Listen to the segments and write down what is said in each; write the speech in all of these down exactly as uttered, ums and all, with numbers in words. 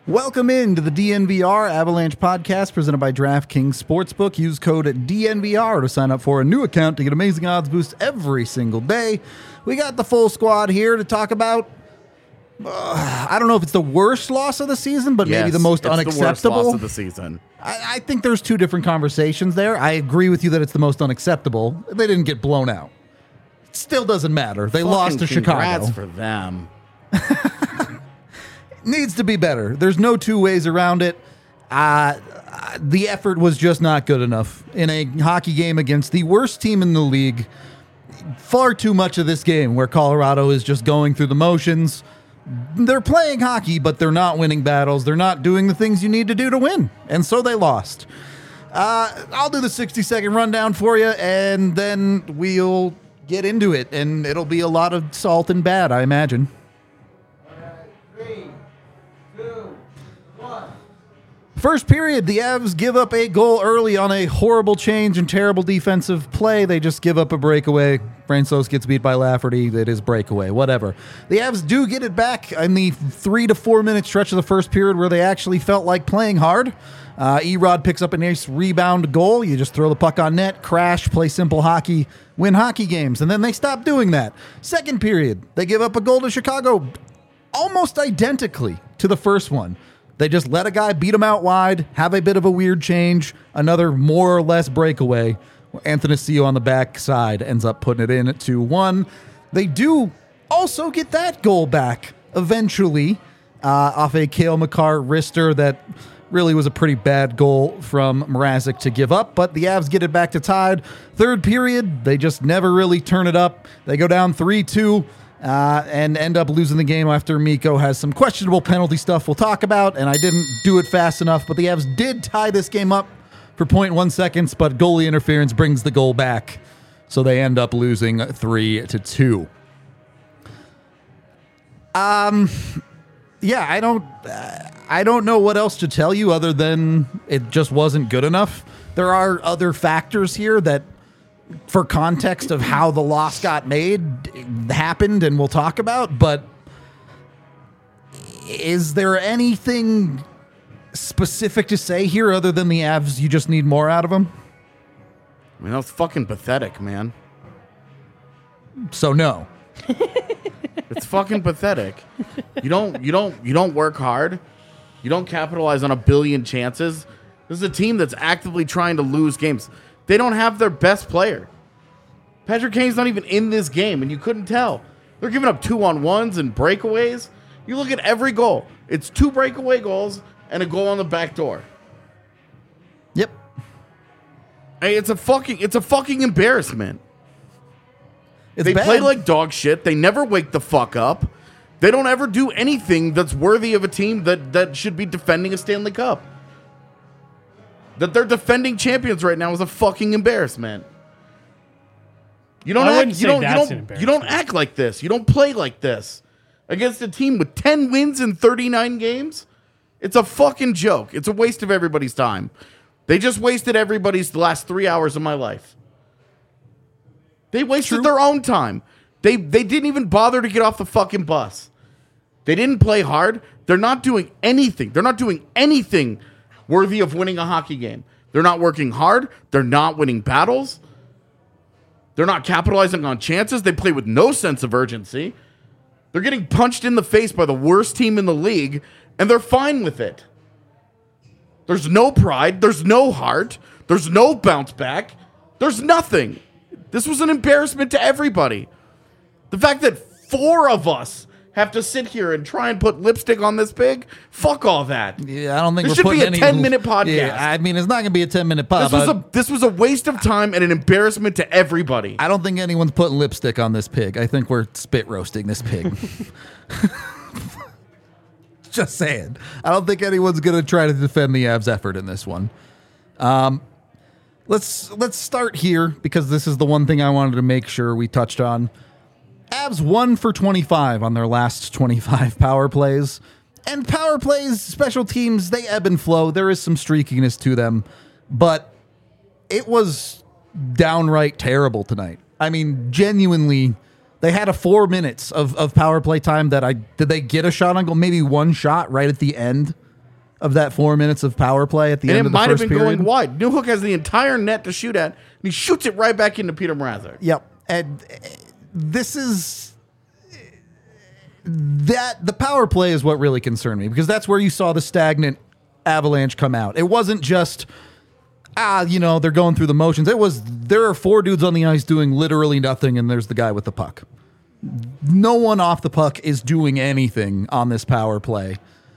Welcome in to the D N V R Avalanche podcast presented by DraftKings Sportsbook. Use code D N V R to sign up for a new account to get amazing odds boosts every single day. We got the full squad here to talk about, uh, I don't know if it's the worst loss of the season, but yes, maybe the most it's unacceptable. The worst loss of the season. I, I think there's two different conversations there. I agree with you that it's the most unacceptable. They didn't get blown out. It still doesn't matter. They Fucking lost to congrats Chicago. for them. Needs to be better. There's no two ways around it. Uh, the effort was just not good enough in a hockey game against the worst team in the league. Far too much of this game where Colorado is just going through the motions. They're playing hockey, but they're not winning battles. They're not doing the things you need to do to win. And so they lost. Uh, I'll do the sixty second rundown for you, and then we'll get into it. And it'll be a lot of salt and bad, I imagine. First period, the Avs give up a goal early on a horrible change and terrible defensive play. They just give up a breakaway. Francouz gets beat by Lafferty. It is breakaway, whatever. The Avs do get it back in the three to four minute stretch of the first period where they actually felt like playing hard. Uh, Erod picks up a nice rebound goal. You just throw the puck on net, crash, play simple hockey, win hockey games. And then they stop doing that. Second period, they give up a goal to Chicago almost identically to the first one. They just let a guy beat him out wide, have a bit of a weird change, another more or less breakaway. Anthony Sio on the back side ends up putting it in at two one. They do also get that goal back eventually uh, off a Cale Makar wrister that really was a pretty bad goal from Mrazek to give up, but the Avs get it back to tied. Third period, they just never really turn it up. They go down three two. Uh, and end up losing the game after Mikko has some questionable penalty stuff we'll talk about, and I didn't do it fast enough, but the Avs did tie this game up for zero point one seconds, but goalie interference brings the goal back, so they end up losing three to two. Um, yeah, I don't, uh, I don't know what else to tell you other than it just wasn't good enough. There are other factors here that, for context of how the loss got made, happened, and we'll talk about, but is there anything specific to say here other than the Avs, you just need more out of them? I mean, that was fucking pathetic, man. So no. It's fucking pathetic. You don't, you don't, you don't work hard. You don't capitalize on a billion chances. This is a team that's actively trying to lose games. They don't have their best player. Patrick Kane's not even in this game, and you couldn't tell. They're giving up two-on-ones and breakaways. You look at every goal. It's two breakaway goals and a goal on the back door. Yep. Hey, it's a fucking it's a fucking embarrassment. It's they bad. play like dog shit. They never wake the fuck up. They don't ever do anything that's worthy of a team that, that should be defending a Stanley Cup. That they're defending champions right now is a fucking embarrassment. You don't I act. wouldn't You say don't. You that's don't. an You don't embarrassment. act like this. You don't play like this against a team with ten wins in thirty-nine games. It's a fucking joke. It's a waste of everybody's time. They just wasted everybody's the last three hours of my life. They wasted True. their own time. They they didn't even bother to get off the fucking bus. They didn't play hard. They're not doing anything. They're not doing anything worthy of winning a hockey game. They're not working hard. They're not winning battles. They're not capitalizing on chances. They play with no sense of urgency. They're getting punched in the face by the worst team in the league, and they're fine with it. There's no pride. There's no heart. There's no bounce back. There's nothing. This was an embarrassment to everybody. The fact that four of us have to sit here and try and put lipstick on this pig, fuck all that. Yeah, I don't think This we're should be putting a any- ten-minute podcast. Yeah, I mean, it's not going to be a ten-minute pod. This was but a this was a waste of time and an embarrassment to everybody. I don't think anyone's putting lipstick on this pig. I think we're spit roasting this pig. Just saying. I don't think anyone's going to try to defend the Avs' effort in this one. Um, let's let's start here because this is the one thing I wanted to make sure we touched on. Avs one for twenty-five on their last twenty-five power plays. And power plays, special teams, they ebb and flow. There is some streakiness to them. But it was downright terrible tonight. I mean, genuinely, they had a four minutes of, of power play time that I... Did they get a shot on goal? Maybe one shot right at the end of that four minutes of power play at the And end it of the might have first been period. going wide. Newhook has the entire net to shoot at, and he shoots it right back into Peter Mrazek. Yep. And uh, this is that the power play is what really concerned me, because that's where you saw the stagnant Avalanche come out. It wasn't just, ah, you know, they're going through the motions. It was, there are four dudes on the ice doing literally nothing, and there's the guy with the puck. No one off the puck is doing anything on this power play.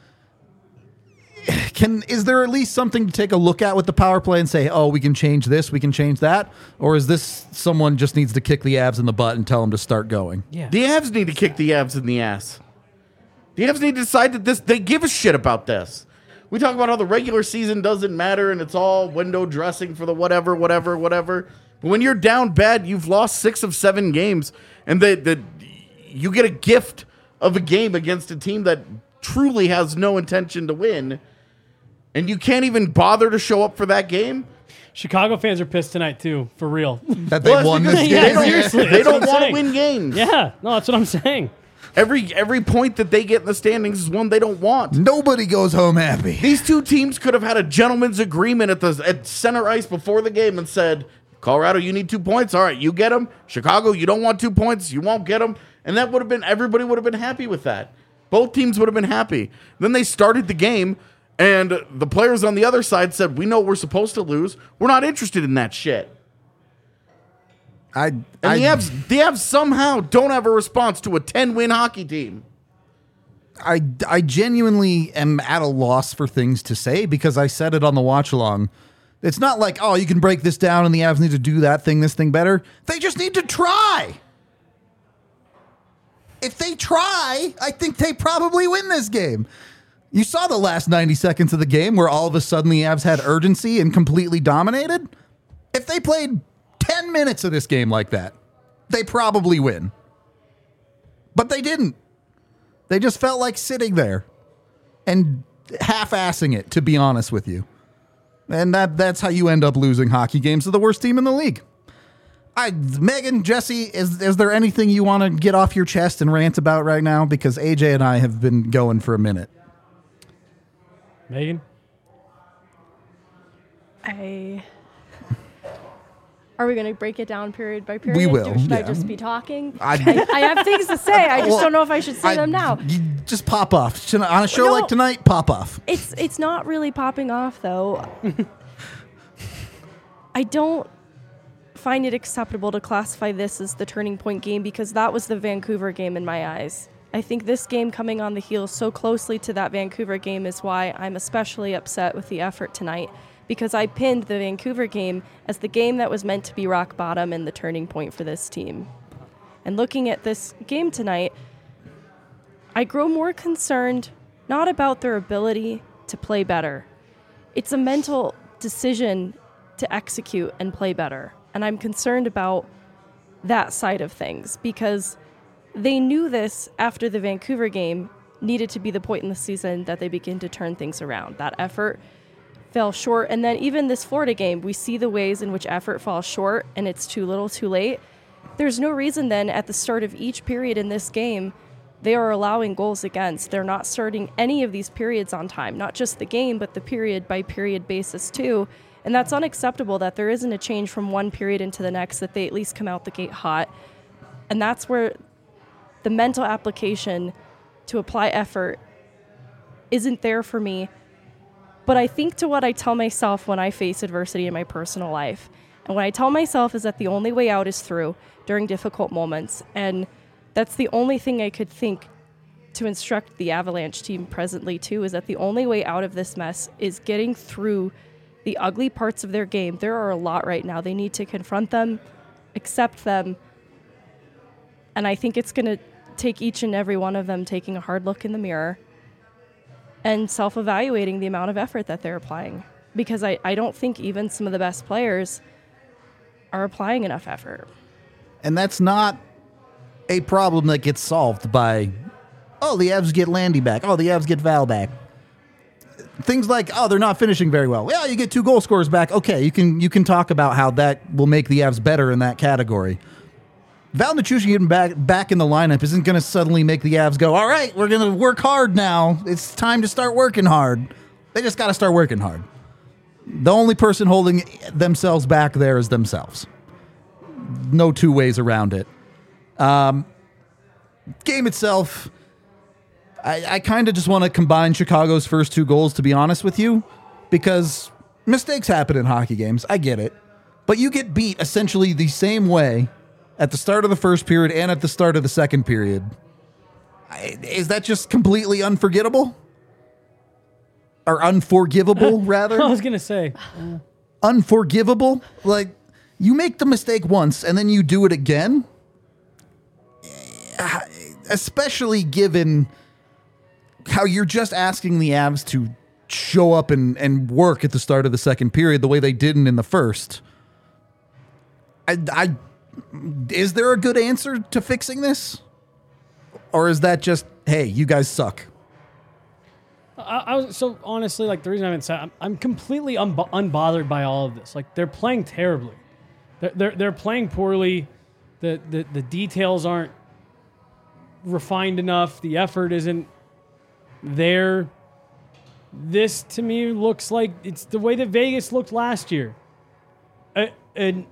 Can is there at least something to take a look at with the power play and say, oh, we can change this, we can change that? Or is this someone just needs to kick the Avs in the butt and tell them to start going? Yeah. The Avs need to kick the Avs in the ass. The Avs need to decide that this they give a shit about this. We talk about how the regular season doesn't matter and it's all window dressing for the whatever, whatever, whatever. But when you're down bad, you've lost six of seven games, and the, the you get a gift of a game against a team that truly has no intention to win, and you can't even bother to show up for that game. Chicago fans are pissed tonight too, for real. That they Well, it's won because this Yeah, they game? don't, seriously, they that's don't what I'm want to saying. win games. Yeah, no, that's what I'm saying. Every every point that they get in the standings is one they don't want. Nobody goes home happy. These two teams could have had a gentleman's agreement at the at center ice before the game and said, Colorado, you need two points. All right, you get them. Chicago, you don't want two points. You won't get them. And that would have been, everybody would have been happy with that. Both teams would have been happy. Then they started the game, and the players on the other side said, we know we're supposed to lose. We're not interested in that shit. I, And I, the Avs, the Avs somehow don't have a response to a ten-win hockey team. I, I genuinely am at a loss for things to say, because I said it on the watch along. It's not like, oh, you can break this down and the Avs need to do that thing, this thing better. They just need to try. If they try, I think they probably win this game. You saw the last ninety seconds of the game where all of a sudden the Avs had urgency and completely dominated. If they played ten minutes of this game like that, they probably win. But they didn't. They just felt like sitting there and half-assing it, to be honest with you. And that that's how you end up losing hockey games to the worst team in the league. I, Megan, Jesse, is is there anything you want to get off your chest and rant about right now? Because A J and I have been going for a minute. Megan? I. Are we going to break it down period by period? We will, Or should I yeah. just be talking? I- I, I have things to say. I just Well, don't know if I should say I- them now. you just pop off. On a show No. like tonight, pop off. It's it's not really popping off though. I don't find it acceptable to classify this as the turning point game, because that was the Vancouver game in my eyes. I think this game coming on the heels so closely to that Vancouver game is why I'm especially upset with the effort tonight, because I pinned the Vancouver game as the game that was meant to be rock bottom and the turning point for this team. And looking at this game tonight, I grow more concerned not about their ability to play better. It's a mental decision to execute and play better. And I'm concerned about that side of things, because they knew this after the Vancouver game needed to be the point in the season that they begin to turn things around. That effort fell short. And then even this Florida game, we see the ways in which effort falls short and it's too little too late. There's no reason then at the start of each period in this game, they are allowing goals against. They're not starting any of these periods on time, not just the game, but the period by period basis too. And that's unacceptable, that there isn't a change from one period into the next, that they at least come out the gate hot. And that's where the mental application to apply effort isn't there for me. But I think to what I tell myself when I face adversity in my personal life. And what I tell myself is that the only way out is through during difficult moments. And that's the only thing I could think to instruct the Avalanche team presently too, is that the only way out of this mess is getting through the ugly parts of their game. There are a lot right now. They need to confront them, accept them. And I think it's going to take each and every one of them taking a hard look in the mirror and self-evaluating the amount of effort that they're applying. Because I, I don't think even some of the best players are applying enough effort. And that's not a problem that gets solved by, oh, the Avs get Landy back. Oh, the Avs get Val back. Things like, oh, they're not finishing very well. Yeah, you get two goal scorers back. Okay, you can you can talk about how that will make the Avs better in that category. Val Nichushkin getting back, back in the lineup isn't going to suddenly make the Avs go, all right, we're going to work hard now. It's time to start working hard. They just got to start working hard. The only person holding themselves back there is themselves. No two ways around it. Um, game itself, I, I kind of just want to combine Chicago's first two goals, to be honest with you, because mistakes happen in hockey games. I get it. But you get beat essentially the same way at the start of the first period and at the start of the second period. I, is that just completely unforgettable? Or unforgivable, rather? I was going to say. Uh, Unforgivable? Like, you make the mistake once and then you do it again? Especially given how you're just asking the Avs to show up and, and work at the start of the second period the way they didn't in the first. I, I, is there a good answer to fixing this? Or is that just, hey, you guys suck? I, I was so honestly, like the reason I haven't said, I'm, I'm completely unbo- unbothered by all of this. Like they're playing terribly, they're they're, they're playing poorly. The, the the details aren't refined enough. The effort isn't there. This to me looks like it's the way that Vegas looked last year. A, an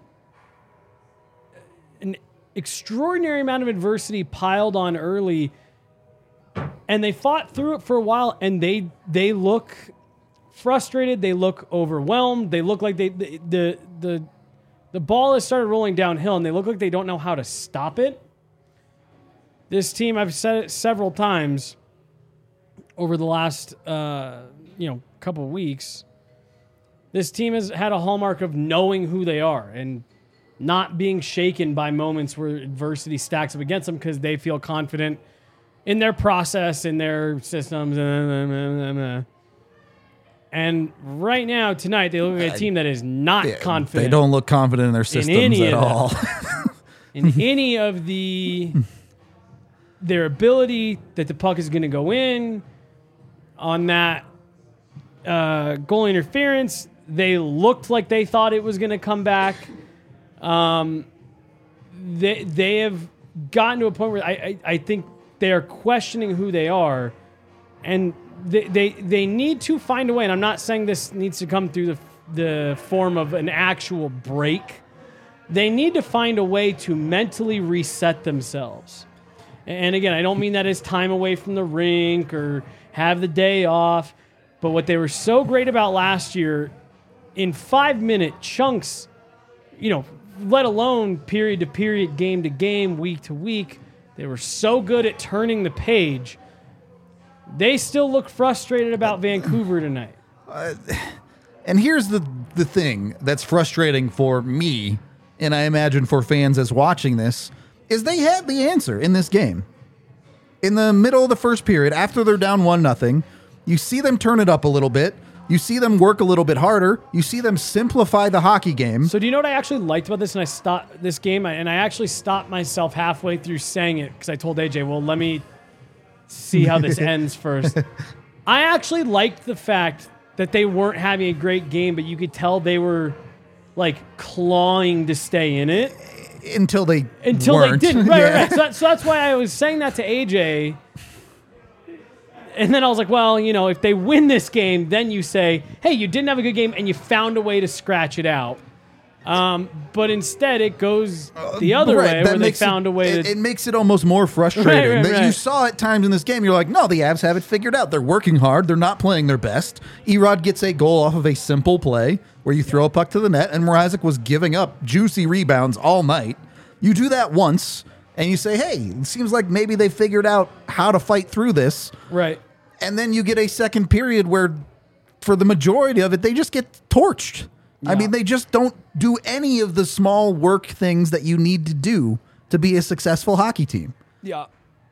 an extraordinary amount of adversity piled on early. And they fought through it for a while, and they they look frustrated. They look overwhelmed. They look like they the the the, the ball has started rolling downhill, and they look like they don't know how to stop it. This team, I've said it several times over the last uh, you know couple of weeks. This team has had a hallmark of knowing who they are and not being shaken by moments where adversity stacks up against them because they feel confident in their process, in their systems. And right now, tonight, they look like a team that is not They, confident. they don't look confident in their systems any at of all. in any of the their ability that the puck is going to go in on that uh, goal interference. They looked like they thought it was going to come back. Um, they they have gotten to a point where I I, I think they are questioning who they are, and they, they they need to find a way. And I'm not saying this needs to come through the the form of an actual break. They need to find a way to mentally reset themselves. And again, I don't mean that as time away from the rink or have the day off. But what they were so great about last year, in five-minute chunks, you know, let alone period to period, game to game, week to week, they were so good at turning the page. They still look frustrated about Vancouver tonight. Uh, and here's the the thing that's frustrating for me, and I imagine for fans as watching this, is they had the answer in this game. In the middle of the first period, after they're down one nothing, you see them turn it up a little bit. You see them work a little bit harder. You see them simplify the hockey game. So do you know what I actually liked about this? And I stopped this game, and I actually stopped myself halfway through saying it because I told A J, well, let me see how this ends first. I actually liked the fact that they weren't having a great game, but you could tell they were like clawing to stay in it. Until they Until weren't. they didn't. Right, Yeah. right, right. So, that, so that's why I was saying that to A J. And then I was like, well, you know, if they win this game, then you say, hey, you didn't have a good game and you found a way to scratch it out. Um, but instead, it goes the other Right, way that where they makes found it, a way it, to... it makes it almost more frustrating. Right, right, that You right. saw at times in this game, you're like, no, the Avs have it figured out. They're working hard. They're not playing their best. Erod gets a goal off of a simple play where you throw a puck to the net, and Mrazek was giving up juicy rebounds all night. You do that once, and you say, hey, it seems like maybe they figured out how to fight through this. Right. And then you get a second period where, for the majority of it, they just get torched. I Yeah. mean, they just don't do any of the small work things that you need to do to be a successful hockey team. Yeah.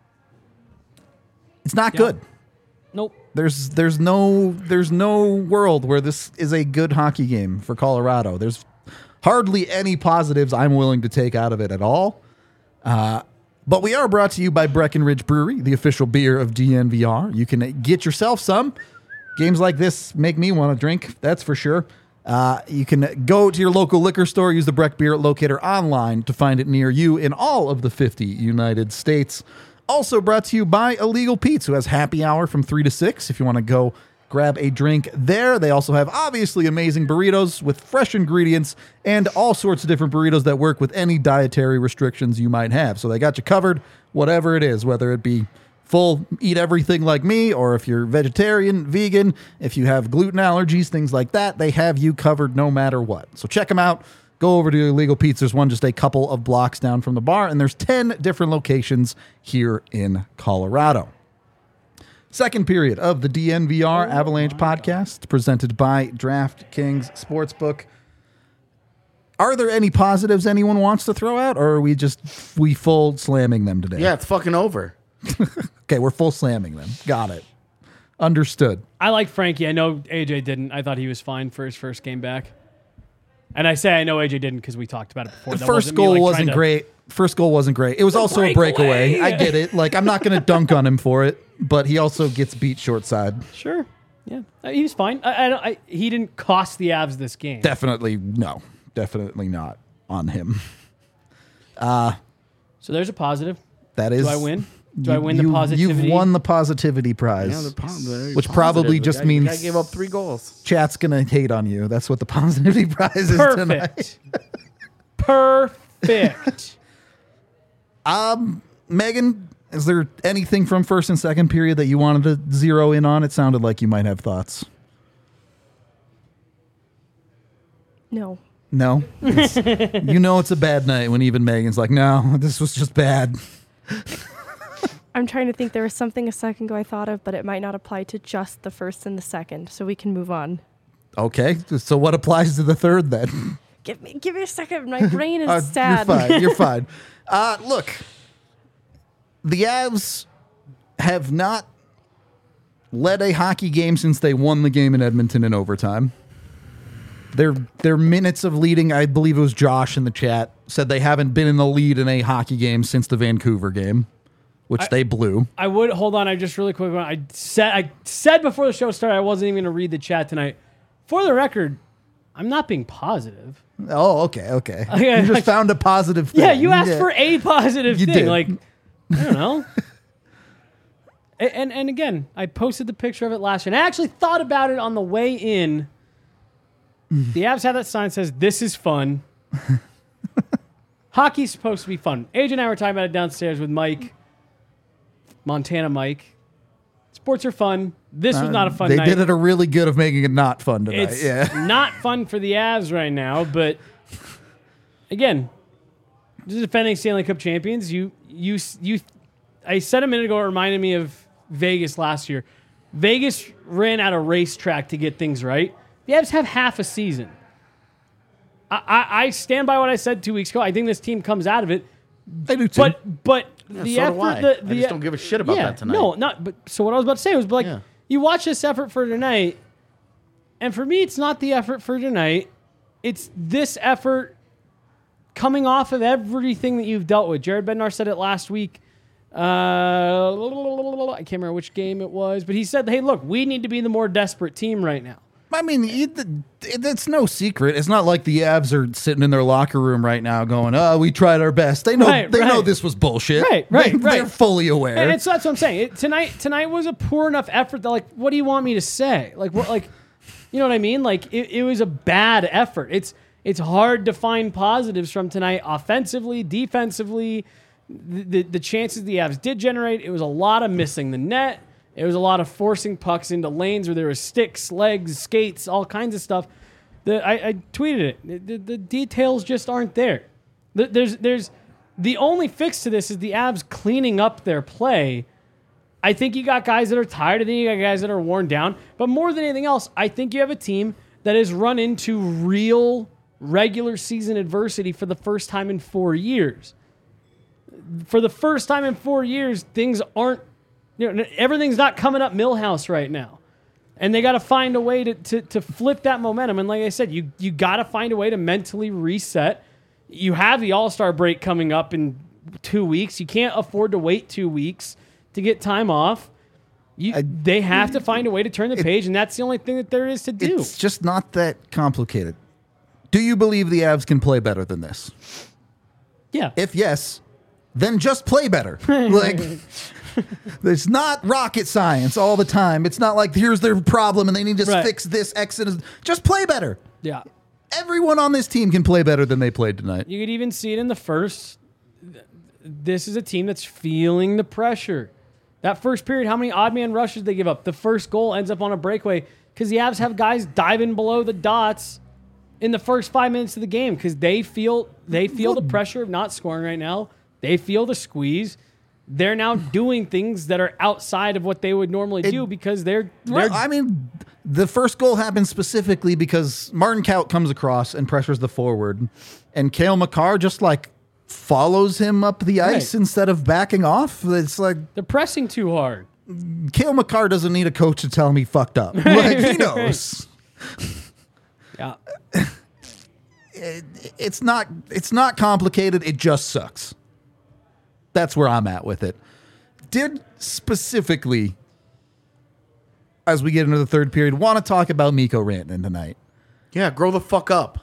It's not Yeah. good. Nope. There's there's no there's no world where this is a good hockey game for Colorado. There's hardly any positives I'm willing to take out of it at all. Uh, but we are brought to you by Breckenridge Brewery, the official beer of D N V R. You can get yourself some. Games like this make me want to drink, that's for sure. Uh, you can go to your local liquor store, use the Breck Beer Locator online to find it near you in all of the fifty United States. Also brought to you by Illegal Pete's, who has happy hour from three to six if you want to go grab a drink there. They also have obviously amazing burritos with fresh ingredients and all sorts of different burritos that work with any dietary restrictions you might have. So they got you covered, whatever it is, whether it be full eat everything like me, or if you're vegetarian, vegan, if you have gluten allergies, things like that, they have you covered no matter what. So check them out. Go over to Illegal Pizza. There's one just a couple of blocks down from the bar, and there's ten different locations here in Colorado. Second period of the D N V R Oh Avalanche my podcast presented by DraftKings Sportsbook. Are there any positives anyone wants to throw out, or are we just we full slamming them today? Yeah, it's fucking over. Okay, we're full slamming them. Got it. Understood. I like Frankie. I know A J didn't. I thought he was fine for his first game back. And I say I know A J didn't because we talked about it before. The That first wasn't me, goal like, wasn't trying to- great. First goal wasn't great. It was also a breakaway. breakaway. I get it. Like, I'm not going to dunk on him for it, but he also gets beat short side. Sure. Yeah. Uh, he was fine. I, I, don't- I, he didn't cost the Avs this game. Definitely no. Definitely not on him. So there's a positive. That is. Do I win? Do you- I win the you- positivity? You've won the positivity prize. Yeah, they're po- they're Which probably positive. just The guy- means- the guy gave up three goals. Chat's going to hate on you. That's what the positivity prize is tonight. Perfect. Perfect. Megan, is there anything from first and second period that you wanted to zero in on? It sounded like you might have thoughts. No. No? It's- you know it's a bad night when even Megan's like, no, this was just bad. I'm trying to think. There was something a second ago I thought of, but it might not apply to just the first and the second, so we can move on. Okay, so what applies to the third then? Give me, give me a second. My brain is Uh, sad. You're fine. You're fine. Uh, look, the Avs have not led a hockey game since they won the game in Edmonton in overtime. Their their minutes of leading, I believe it was Josh in the chat, said they haven't been in the lead in a hockey game since the Vancouver game, which I- they blew. I would hold on. I just really quick. I said I said before the show started I wasn't even going to read the chat tonight. For the record, I'm not being positive. Oh, okay, okay. Okay, you just like- found a positive thing. Yeah, you asked Yeah. for a positive You thing. did. Like, I don't know. A- and and again, I posted the picture of it last year, and I actually thought about it on the way in. The Avs have that sign that says, "This is fun." Hockey's supposed to be fun. A J and I were talking about it downstairs with Mike, Montana Mike. Sports are fun. This was not a fun They night. did it a really good of making it not fun tonight. It's yeah. not fun for the Avs right now, but again, the defending Stanley Cup champions. You, you, you. I said a minute ago, it reminded me of Vegas last year. Vegas ran out of racetrack to get things right. The Avs have half a season. I, I, I stand by what I said two weeks ago. I think this team comes out of it, They do too. but but the so do effort. I. The, I the, just don't give a shit about yeah, that tonight. No, not. But so what I was about to say was, like, Yeah. you watch this effort for tonight, and for me, it's not the effort for tonight. It's this effort coming off of everything that you've dealt with. Jared Bednar said it last week. Uh, I can't remember which game it was, but he said, "Hey, look, we need to be the more desperate team right now." I mean, it, it's no secret. It's not like the Avs are sitting in their locker room right now going, "Oh, we tried our best." They know Right, they know right. this was bullshit. Right, right, they, right. They're fully aware. And it's, that's what I'm saying. It, tonight, tonight was a poor enough effort that, like, what do you want me to say? Like, what, like, you know what I mean? Like, it, it was a bad effort. It's it's hard to find positives from tonight, offensively, defensively. The, the the chances the Avs did generate, it was a lot of missing the net. It was a lot of forcing pucks into lanes where there were sticks, legs, skates, all kinds of stuff. The, I, I tweeted it. The, the details just aren't there. The, there's there's the only fix to this is the Avs cleaning up their play. I think you got guys that are tired. I think you got guys that are worn down. But more than anything else, I think you have a team that has run into real regular season adversity for the first time in four years. For the first time in four years, things aren't, you know, everything's not coming up Millhouse right now. And they got to find a way to, to, to flip that momentum. And like I said, you, you got to find a way to mentally reset. You have the All-Star break coming up in two weeks. You can't afford to wait two weeks to get time off. You, I- they have to find a way to turn the page, and that's the only thing that there is to do. It's just not that complicated. Do you believe the Avs can play better than this? Yeah. If yes, then just play better. Like, it's not rocket science all the time. It's not like here's their problem and they need to Right. fix this X and Z. Just play better. Yeah. Everyone on this team can play better than they played tonight. You could even see it in the first. This is a team that's feeling the pressure. That first period, how many odd man rushes they give up? The first goal ends up on a breakaway because the Avs have guys diving below the dots in the first five minutes of the game because they feel they feel the pressure of not scoring right now. They feel the squeeze. They're now doing things that are outside of what they would normally do because they're, they're Well, I mean, the first goal happens specifically because Martin Kaut comes across and pressures the forward, and Cale Makar just like follows him up the ice Right. instead of backing off. It's like they're pressing too hard. Cale Makar doesn't need a coach to tell him he fucked up. Like, he knows. Yeah. It, it's not. It's not complicated. It just sucks. That's where I'm at with it. Did specifically, as we get into the third period, want to talk about Mikko Rantanen tonight? Yeah, grow the fuck up.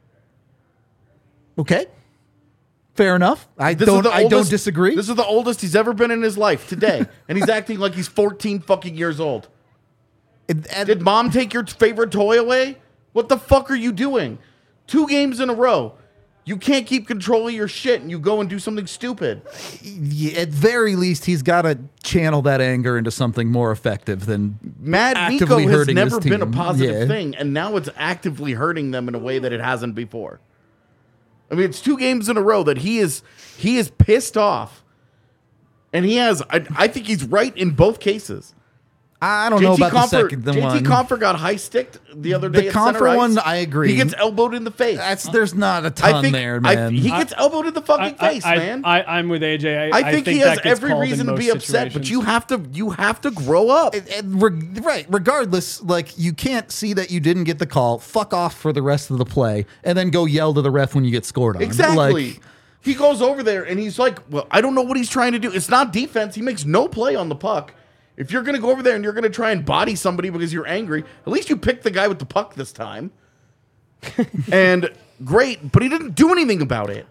Okay, fair enough. I This don't. is the I don't oldest- disagree. This is the oldest he's ever been in his life today, and he's acting like he's fourteen fucking years old. And- and- Did mom take your favorite toy away? What the fuck are you doing? Two games in a row. You can't keep control of your shit and you go and do something stupid. yeah, at very least, he's got to channel that anger into something more effective than Mad Nico actively has hurting never his been a team. positive Yeah. thing, and now it's actively hurting them in a way that it hasn't before. I mean, it's two games in a row that he is he is pissed off. And he has, I, I think he's right in both cases. I don't know about the second J T one. Comfer got high sticked the other The day. at center Comfer ice. one, I agree. He gets elbowed in the face. That's there's not a ton I think there, I- man. he gets elbowed in the fucking I, face, I, man. I, I, I'm with A J. I think, he has that gets every called in reason to most be upset, but situations. you have to you have to grow up. And- and reg- right. Regardless, like you can't see that you didn't get the call. Fuck off for the rest of the play, and then go yell to the ref when you get scored on. Exactly. Like, He goes over there and he's like, well, I don't know what he's trying to do. It's not defense. He makes no play on the puck. If you're going to go over there and you're going to try and body somebody because you're angry, at least you pick the guy with the puck this time. And great, but he didn't do anything about it.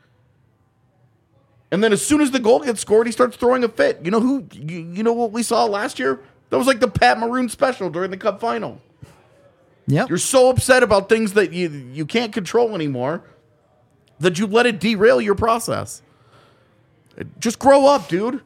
And then as soon as the goal gets scored, he starts throwing a fit. You know who? You, you know what we saw last year? That was like the Pat Maroon special during the Cup final. yep. You're so upset about things that you you can't control anymore that you let it derail your process. Just grow up, dude.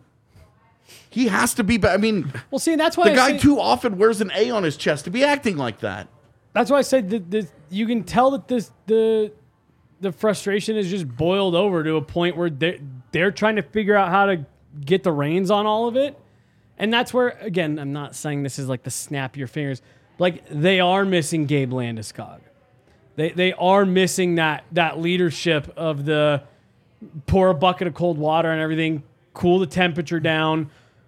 He has to be. Ba- I mean, Well, see, and that's why the I guy say, too often wears an A on his chest to be acting like that. That's why I said that this, you can tell that this the the frustration is just boiled over to a point where they're they're trying to figure out how to get the reins on all of it, and that's where again I'm not saying this is like the snap your fingers, like they are missing Gabe Landeskog. They they are missing that that leadership of the pour a bucket of cold water and everything, cool the temperature down.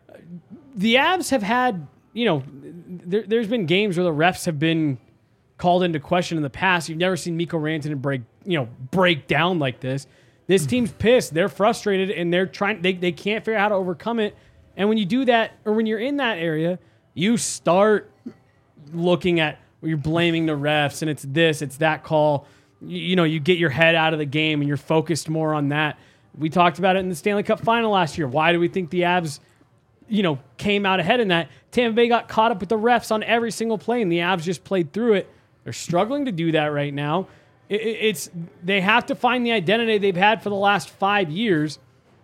The Avs have had, you know, there, there's been games where the refs have been called into question in the past. You've never seen Mikko Rantanen break, you know, break down like this. This team's pissed. They're frustrated and they're trying. They they can't figure out how to overcome it. And when you do that, or when you're in that area, you start looking at where you're blaming the refs and it's this, it's that call. You, you know, you get your head out of the game and you're focused more on that. We talked about it in the Stanley Cup final last year. Why do we think the Avs, you know, came out ahead in that? Tampa Bay got caught up with the refs on every single play, and the Avs just played through it. They're struggling to do that right now. It, it, it's they have to find the identity they've had for the last five years.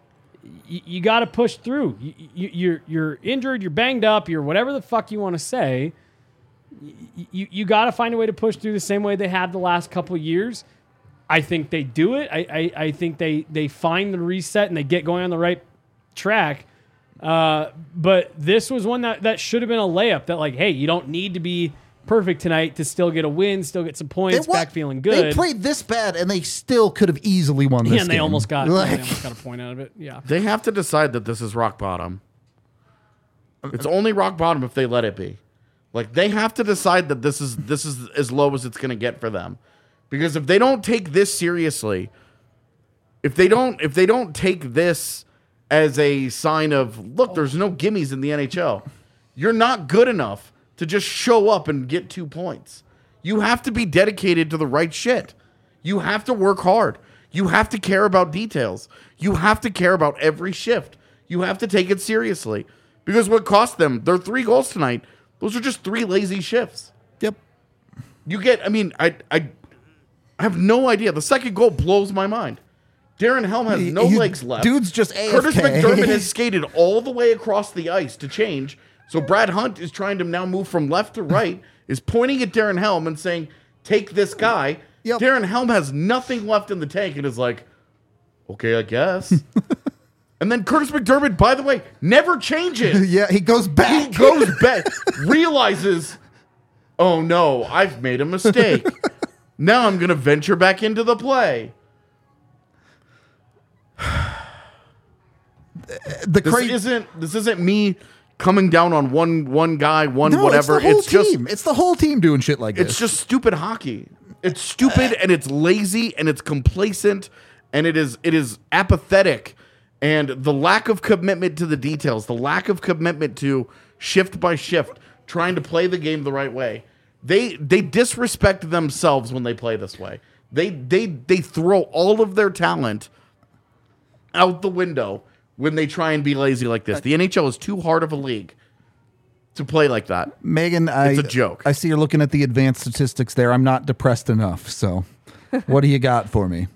Y- you got to push through. You, you, you're you're injured, you're banged up, you're whatever the fuck you want to say. Y- you you got to find a way to push through the same way they have the last couple of years. I think they do it. I, I, I think they they find the reset and they get going on the right track. Uh, but this was one that, that should have been a layup that, like, hey, you don't need to be perfect tonight to still get a win, still get some points, wa- back feeling good. They played this bad, and they still could have easily won this yeah, and they game. almost got Like, they almost got a point out of it. Yeah. They have to decide that this is rock bottom. It's only rock bottom if they let it be. Like they have to decide that this is this is as low as it's going to get for them. Because if they don't take this seriously, if they don't if they don't take this as a sign of, look, there's no gimmies in the N H L. You're not good enough to just show up and get two points. You have to be dedicated to the right shit. You have to work hard. You have to care about details. You have to care about every shift. You have to take it seriously. Because what cost them, their three goals tonight, those are just three lazy shifts. Yep. You get, I mean, I I, I have no idea. The second goal blows my mind. Darren Helm has no He- legs left. Dude's just A F K. Curtis McDermott has skated all the way across the ice to change. So Brad Hunt is trying to now move from left to right, is pointing at Darren Helm and saying, take this guy. Yep. Darren Helm has nothing left in the tank and is like, okay, I guess. And then Curtis McDermott, by the way, never changes. Yeah, he goes back. He goes back, realizes, oh no, I've made a mistake. Now I'm going to venture back into the play. The This crazy isn't this isn't me coming down on one one guy, one no, whatever. It's the whole It's just team. It's the whole team doing shit like it's this. just stupid hockey. It's stupid and it's lazy and it's complacent and it is it is apathetic. And the lack of commitment to the details, the lack of commitment to shift by shift, trying to play the game the right way. They they disrespect themselves when they play this way. They they they throw all of their talent out the window when they try and be lazy like this. The N H L is too hard of a league to play like that. Megan, I, It's a joke. I see you're looking at the advanced statistics there. I'm not depressed enough. So, what do you got for me?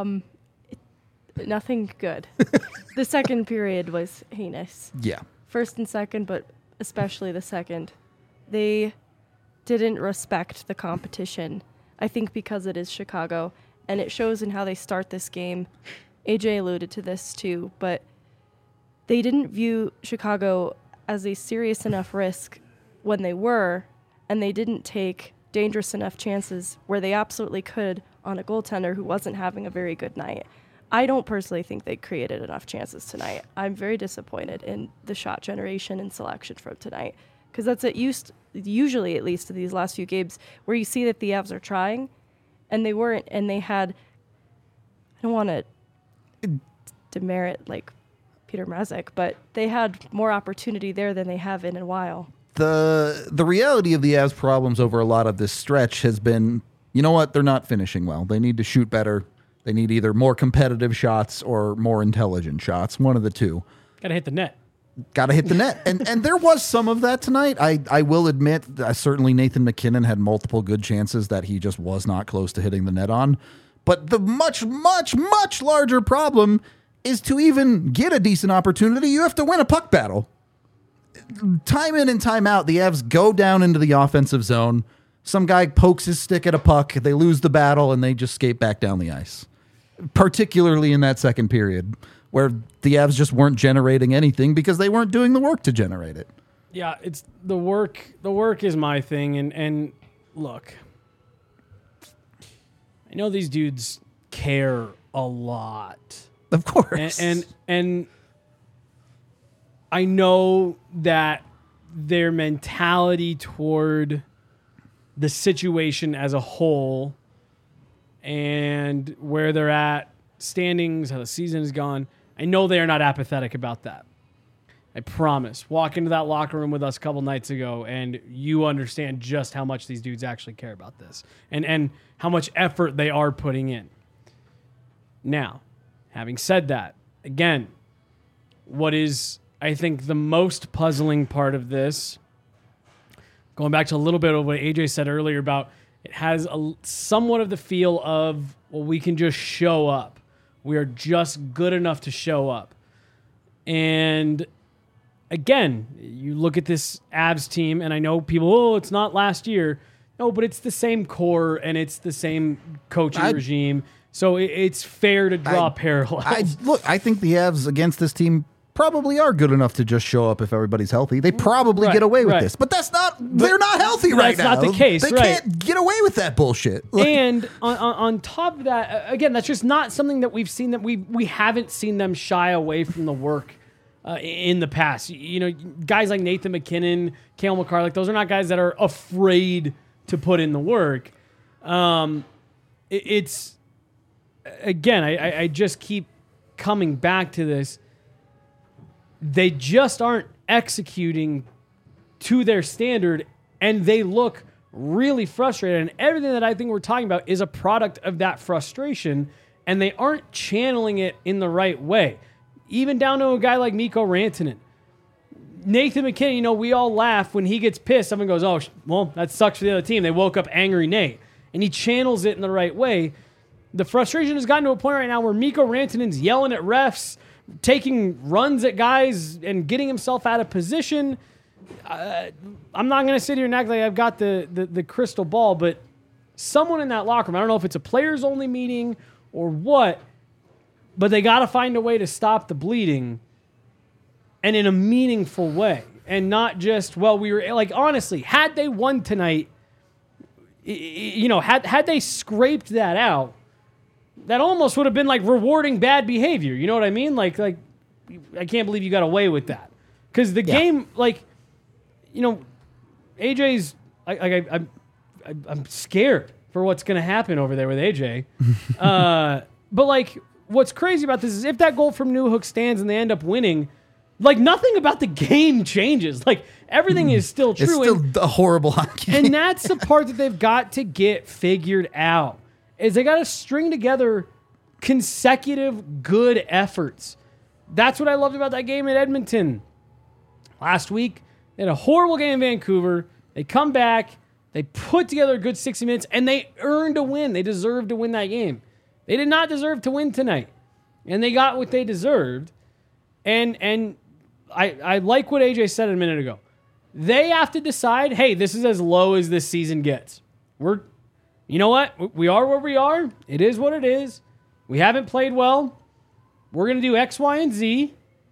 Nothing good. The second period was heinous. Yeah. First and second, but especially the second. They didn't respect the competition. I think because it is Chicago, and it shows in how they start this game. A J alluded to this too, but they didn't view Chicago as a serious enough risk when they were, and they didn't take dangerous enough chances where they absolutely could on a goaltender who wasn't having a very good night. I don't personally think they created enough chances tonight. I'm very disappointed in the shot generation and selection from tonight, because that's at used usually, at least in these last few games, where you see that the Avs are trying, and they weren't, and they had. I don't want to demerit like Peter Mrazek, but they had more opportunity there than they have in a while. The the reality of the Avs' problems over a lot of this stretch has been, you know what? They're not finishing well. They need to shoot better. They need either more competitive shots or more intelligent shots. One of the two. Gotta hit the net. Got to hit the net. And and there was some of that tonight. I, I will admit, uh, certainly Nathan McKinnon had multiple good chances that he just was not close to hitting the net on. But the much, much, much larger problem is to even get a decent opportunity, you have to win a puck battle. Time in and time out, the Avs go down into the offensive zone. Some guy pokes his stick at a puck. They lose the battle, and they just skate back down the ice. Particularly in that second period, where the Avs just weren't generating anything because they weren't doing the work to generate it. Yeah, it's the work. The work is my thing, and and look, I know these dudes care a lot, Of course. and and, and I know that their mentality toward the situation as a whole and where they're at, standings, how the season has gone, I know they are not apathetic about that. I promise. Walk into that locker room with us a couple nights ago, and you understand just how much these dudes actually care about this and, and how much effort they are putting in. Now, having said that, again, what is, I think, the most puzzling part of this, going back to a little bit of what A J said earlier about it has a, somewhat of the feel of, well, we can just show up. We are just good enough to show up. And again, you look at this Avs team, and I know people, oh, it's not last year. No, but it's the same core, and it's the same coaching I- regime. So it, it's fair to draw I- parallels. I, look, I think the Avs against this team probably are good enough to just show up if everybody's healthy. They probably Right, get away with right. this. But that's not, they're not healthy right that's now. not the case, They right. can't get away with that bullshit. Like, And on, on, on top of that, uh, again, that's just not something that we've seen that we we haven't seen them shy away from the work uh, in the past. You, you know, guys like Nathan McKinnon, Cale Makar, like those are not guys that are afraid to put in the work. Um, it, it's again, I, I, I just keep coming back to this. They just aren't executing to their standard, and they look really frustrated. And everything that I think we're talking about is a product of that frustration. and they aren't channeling it in the right way. Even down to a guy like Mikko Rantanen. Nathan McKinnon, you know, we all laugh when he gets pissed. Someone goes, oh, well, that sucks for the other team. They woke up angry Nate. And he channels it in the right way. The frustration has gotten to a point right now where Mikko Rantanen's yelling at refs, taking runs at guys, and getting himself out of position. Uh, I'm not going to sit here and act like I've got the, the, the crystal ball, but someone in that locker room, I don't know if it's a players-only meeting or what, but they got to find a way to stop the bleeding and in a meaningful way. And not just, well, we were, like, honestly, had they won tonight, you know, had had they scraped that out, that almost would have been like rewarding bad behavior. You know what I mean? Like, like I can't believe you got away with that. Because the yeah. game, like, you know, A J's, I, I, I, I'm, I'm scared for what's going to happen over there with A J. uh, but, like, what's crazy about this is if that goal from Newhook stands and they end up winning, like, nothing about the game changes. Like, everything is still true. It's still and, a horrible hockey game. And that's the part that they've got to get figured out, is they got to string together consecutive good efforts. That's what I loved about that game at Edmonton. Last week, they had a horrible game in Vancouver. They come back, they put together a good sixty minutes, and they earned a win. They deserved to win that game. They did not deserve to win tonight. And they got what they deserved. And and I, I like what A J said a minute ago. They have to decide, hey, this is as low as this season gets. We're, you know what? We are where we are. It is what it is. We haven't played well. We're going to do X, Y, and Z.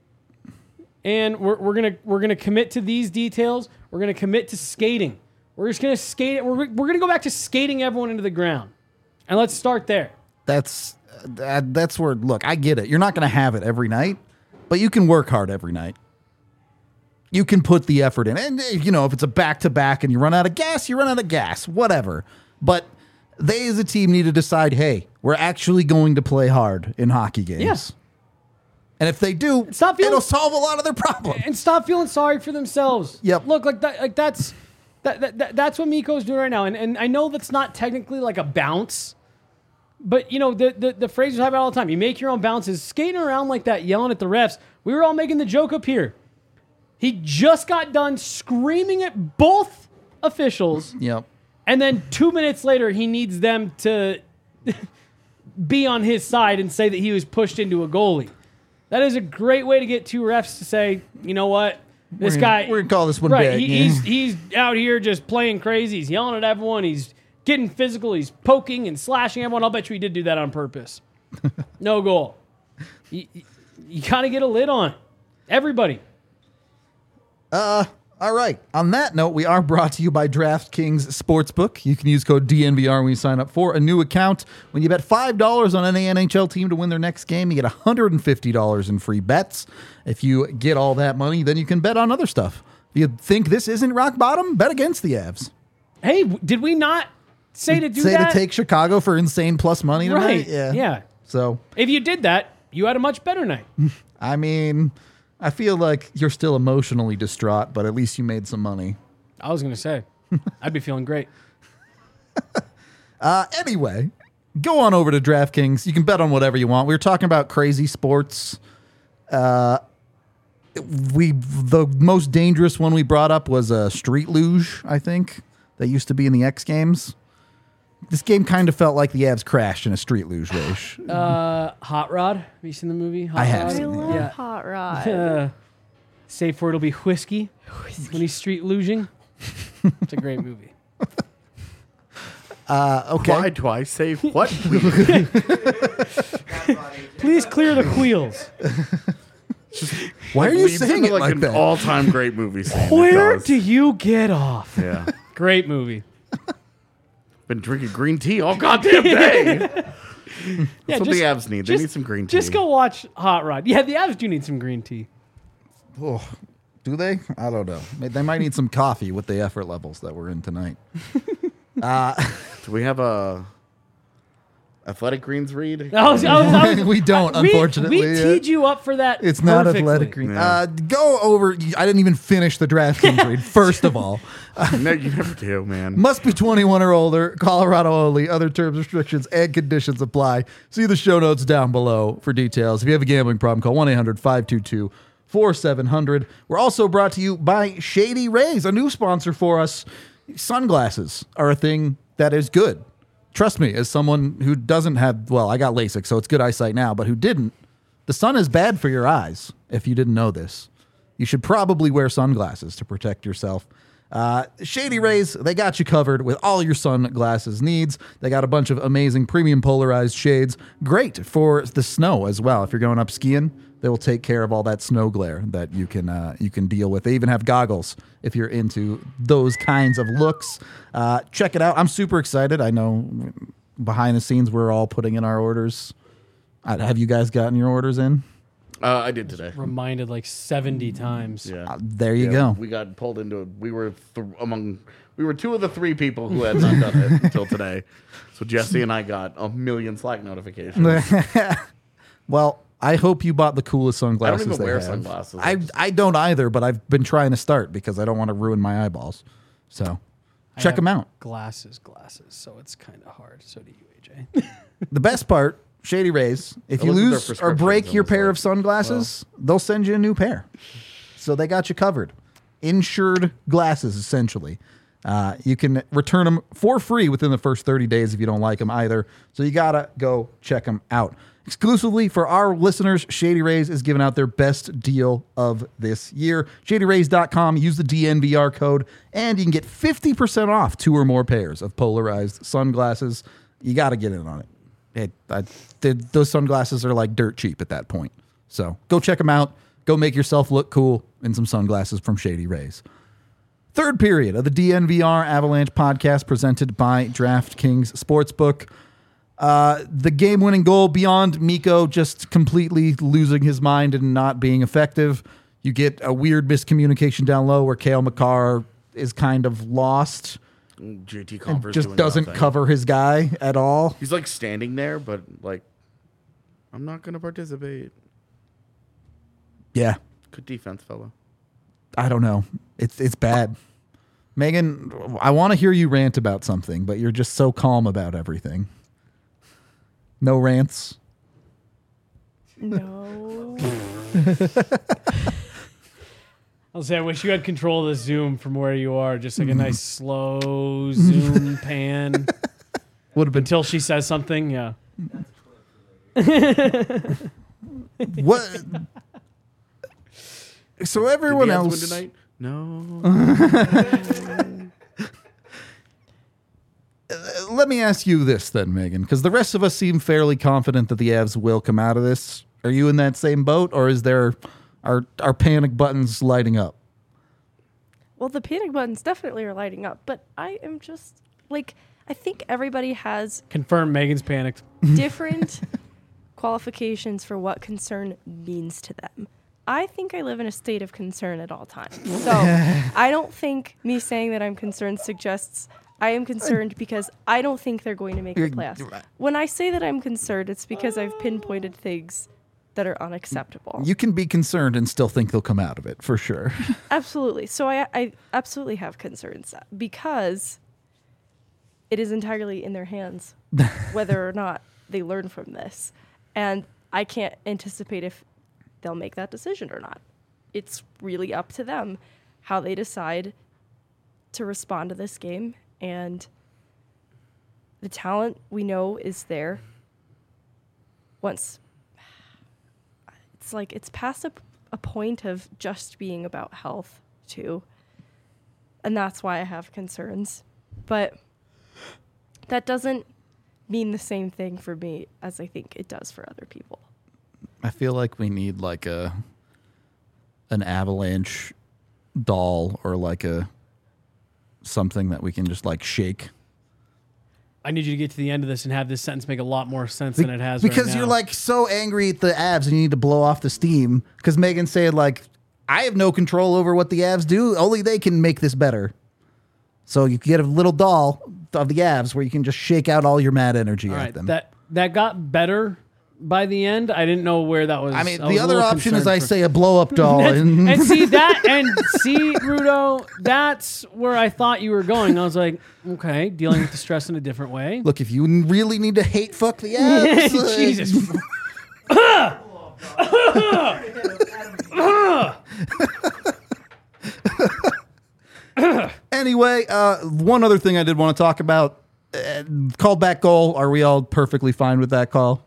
And we're, we're going to we're gonna commit to these details. We're going to commit to skating. We're just going to skate. We're, we're going to go back to skating everyone into the ground. And let's start there. That's, uh, that's where, look, I get it. You're not going to have it every night, but you can work hard every night. You can put the effort in. And, you know, if it's a back-to-back and you run out of gas, you run out of gas, whatever. But they as a team need to decide, hey, we're actually going to play hard in hockey games. Yes. And if they do, stop feeling, it'll solve a lot of their problems. And stop feeling sorry for themselves. Yep. Look, like that, like that's that, that, that that's what Mikko's doing right now. And and I know that's not technically like a bounce, but you know the the, the phrase we have about all the time. You make your own bounces. Skating around like that, yelling at the refs. We were all making the joke up here. He just got done screaming at both officials. Yep. And then two minutes later, he needs them to be on his side and say that he was pushed into a goalie. That is a great way to get two refs to say, you know what, this we're guy... Gonna, we're going to call this one right, big. He, yeah. he's, he's out here just playing crazy. He's yelling at everyone. He's getting physical. He's poking and slashing everyone. I'll bet you he did do that on purpose. No goal. You, you, you got to get a lid on it. Everybody. Uh, all right. On that note, we are brought to you by DraftKings Sportsbook. You can use code D N V R when you sign up for a new account. When you bet five dollars on any N H L team to win their next game, you get one hundred fifty dollars in free bets. If you get all that money, then you can bet on other stuff. If you think this isn't rock bottom, bet against the Avs. Hey, did we not say to do say that? Say to take Chicago for insane plus money tonight? Right. Yeah. Yeah. So if you did that, you had a much better night. I mean... I feel like you're still emotionally distraught, but at least you made some money. I was going to say, I'd be feeling great. uh, anyway, go on over to DraftKings. You can bet on whatever you want. We were talking about crazy sports. Uh, we the most dangerous one we brought up was a street luge, I think, that used to be in the X Games. This game kind of felt like the Avs crashed in a street luge race. Uh, Hot Rod. Have you seen the movie? Hot I have Rod? seen I it. love Yeah. Hot Rod. Uh, safe word will be whiskey, whiskey. when he's street luging. It's a great movie. Uh, okay. Why do I say what? Please clear the wheels. Why are you Leads saying into it like, like an that? all-time great movie scene. Where It does. do you get off? Yeah. Great movie. Been drinking green tea all goddamn day. That's Yeah, what just- the Avs need. They just- need some green tea. Just go watch Hot Rod. Yeah, the Avs do need some green tea. Oh, do they? I don't know. They might need some coffee with the effort levels that we're in tonight. uh, Do we have a Athletic Greens read. I was, I was, I was, We don't, I- we- unfortunately, We, yeah. teed you up for that. It's not perfectly. athletic green. Yeah. Uh, go over. I didn't even finish the DraftKings read. First of all, No, you never do, man. must be twenty-one or older. Colorado only. Other terms, restrictions, and conditions apply. See the show notes down below for details. If you have a gambling problem, call one eight hundred five two two four seven zero zero. We're also brought to you by Shady Rays, a new sponsor for us. Sunglasses are a thing that is good. Trust me, as someone who doesn't have, well, I got LASIK, so it's good eyesight now, but who didn't, the sun is bad for your eyes, if you didn't know this. You should probably wear sunglasses to protect yourself. Uh, Shady Rays, they got you covered with all your sunglasses needs. They got a bunch of amazing premium polarized shades. Great for the snow as well. If you're going up skiing, they will take care of all that snow glare that you can uh, you can deal with. They even have goggles if you're into those kinds of looks. Uh, check it out. I'm super excited. I know behind the scenes we're all putting in our orders. Uh, have you guys gotten your orders in? Uh, I did today. Reminded like seventy times. Yeah. Uh, there you Yeah, go. We got pulled into it. We were th- among. We were two of the three people who had not done it until today. So Jesse and I got a million Slack notifications. Well, I hope you bought the coolest sunglasses. even they wear have. sunglasses. I I don't either, but I've been trying to start because I don't want to ruin my eyeballs. So I check have them out. Glasses, glasses. So it's kind of hard. So do you, A J. The best part, Shady Rays, if you looked at their lose or prescriptions break and your was pair like, of sunglasses, they'll send you a new pair. So they got you covered. Insured glasses, essentially. Uh, you can return them for free within the first thirty days if you don't like them either. So you got to go check them out. Exclusively for our listeners, Shady Rays is giving out their best deal of this year. shady rays dot com. Use the D N V R code, and you can get fifty percent off two or more pairs of polarized sunglasses. You got to get in on it. It, I, th- those sunglasses are like dirt cheap at that point. So go check them out. Go make yourself look cool in some sunglasses from Shady Rays. Third period of the D N V R Avalanche podcast presented by DraftKings Sportsbook. Uh, the game-winning goal beyond Mikko just completely losing his mind and not being effective. You get a weird miscommunication down low where Cale Makar is kind of lost J T and Converse just doing doesn't nothing. cover his guy at all. He's like standing there, but like, I'm not gonna participate. Yeah, Good defense, fella. I don't know. It's it's bad. Megan, I want to hear you rant about something, but you're just so calm about everything. No rants. No. I'll say I wish you had control of the zoom from where you are. Just like a nice slow zoom pan Would have been until she says something. Yeah. what? So Did everyone the Avs else. win tonight? No. Let me ask you this then, Megan, because the rest of us seem fairly confident that the Avs will come out of this. Are you in that same boat, or is there are are panic buttons lighting up? Well, the panic buttons definitely are lighting up, but I am just like, I think everybody has Confirm Megan's panicked. different qualifications for what concern means to them. I think I live in a state of concern at all times. So I don't think me saying that I'm concerned suggests I am concerned because I don't think they're going to make the playoffs. When I say that I'm concerned, it's because I've pinpointed things that are unacceptable. You can be concerned and still think they'll come out of it for sure. Absolutely. So I, I absolutely have concerns because it is entirely in their hands whether or not they learn from this. And I can't anticipate if they'll make that decision or not. It's really up to them how they decide to respond to this game. And the talent we know is there. Once it's like it's past a, a point of just being about health too. And that's why I have concerns. But that doesn't mean the same thing for me as I think it does for other people. I feel like we need like a an avalanche doll or like a something that we can just like shake. I need you to get to the end of this and have this sentence make a lot more sense than it has right because now. you're like so angry at the Avs and you need to blow off the steam because Megan said like I have no control over what the Avs do, only they can make this better. So you get a little doll of the Avs where you can just shake out all your mad energy All at right, them. that that got better by the end. I didn't know where that was. I mean, I was the a other little option is concerned I for- say a blow up doll. and, and and see that, and see, Rudo, that's where I thought you were going. I was like, okay, dealing with the stress in a different way. look, if you really need to hate fuck the abs, uh, Jesus. Anyway, uh, one other thing I did want to talk about. Uh, called back goal. Are we all perfectly fine with that call?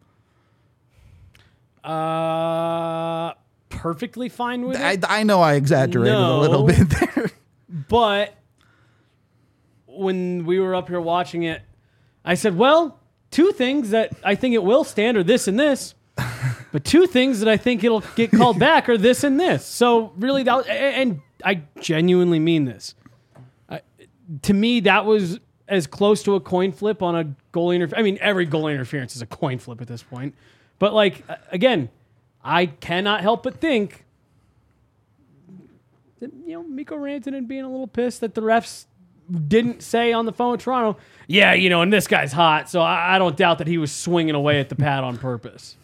Uh, perfectly fine with I, it. I know I exaggerated a little No. bit there. But when we were up here watching it, I said, well, two things that I think it will stand are this and this. But two things that I think it'll get called back are this and this. So really, that was, and I genuinely mean this. I, to me, that was as close to a coin flip on a goal interference. I mean, every goal interference is a coin flip at this point. But like, again, I cannot help but think that, you know, Mikko Rantanen being a little pissed that the refs didn't say on the phone with Toronto, yeah, you know, and this guy's hot, so I, I don't doubt that he was swinging away at the pad on purpose.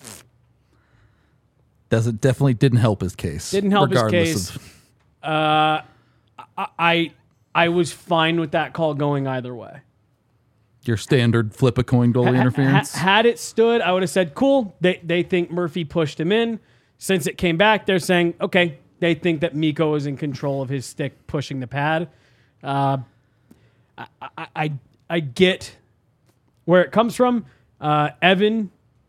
Does it definitely didn't help his case. Didn't help his regardless case. of- Uh, I, I I was fine with that call going either way. your standard flip a coin goalie Ha- interference. ha- had it stood, I would have said, cool. They they think Murphy pushed him in. Since it came back, they're saying, okay, they think that Mikko is in control of his stick pushing the pad. Uh, I, I, I, I get where it comes from. Uh, Evan,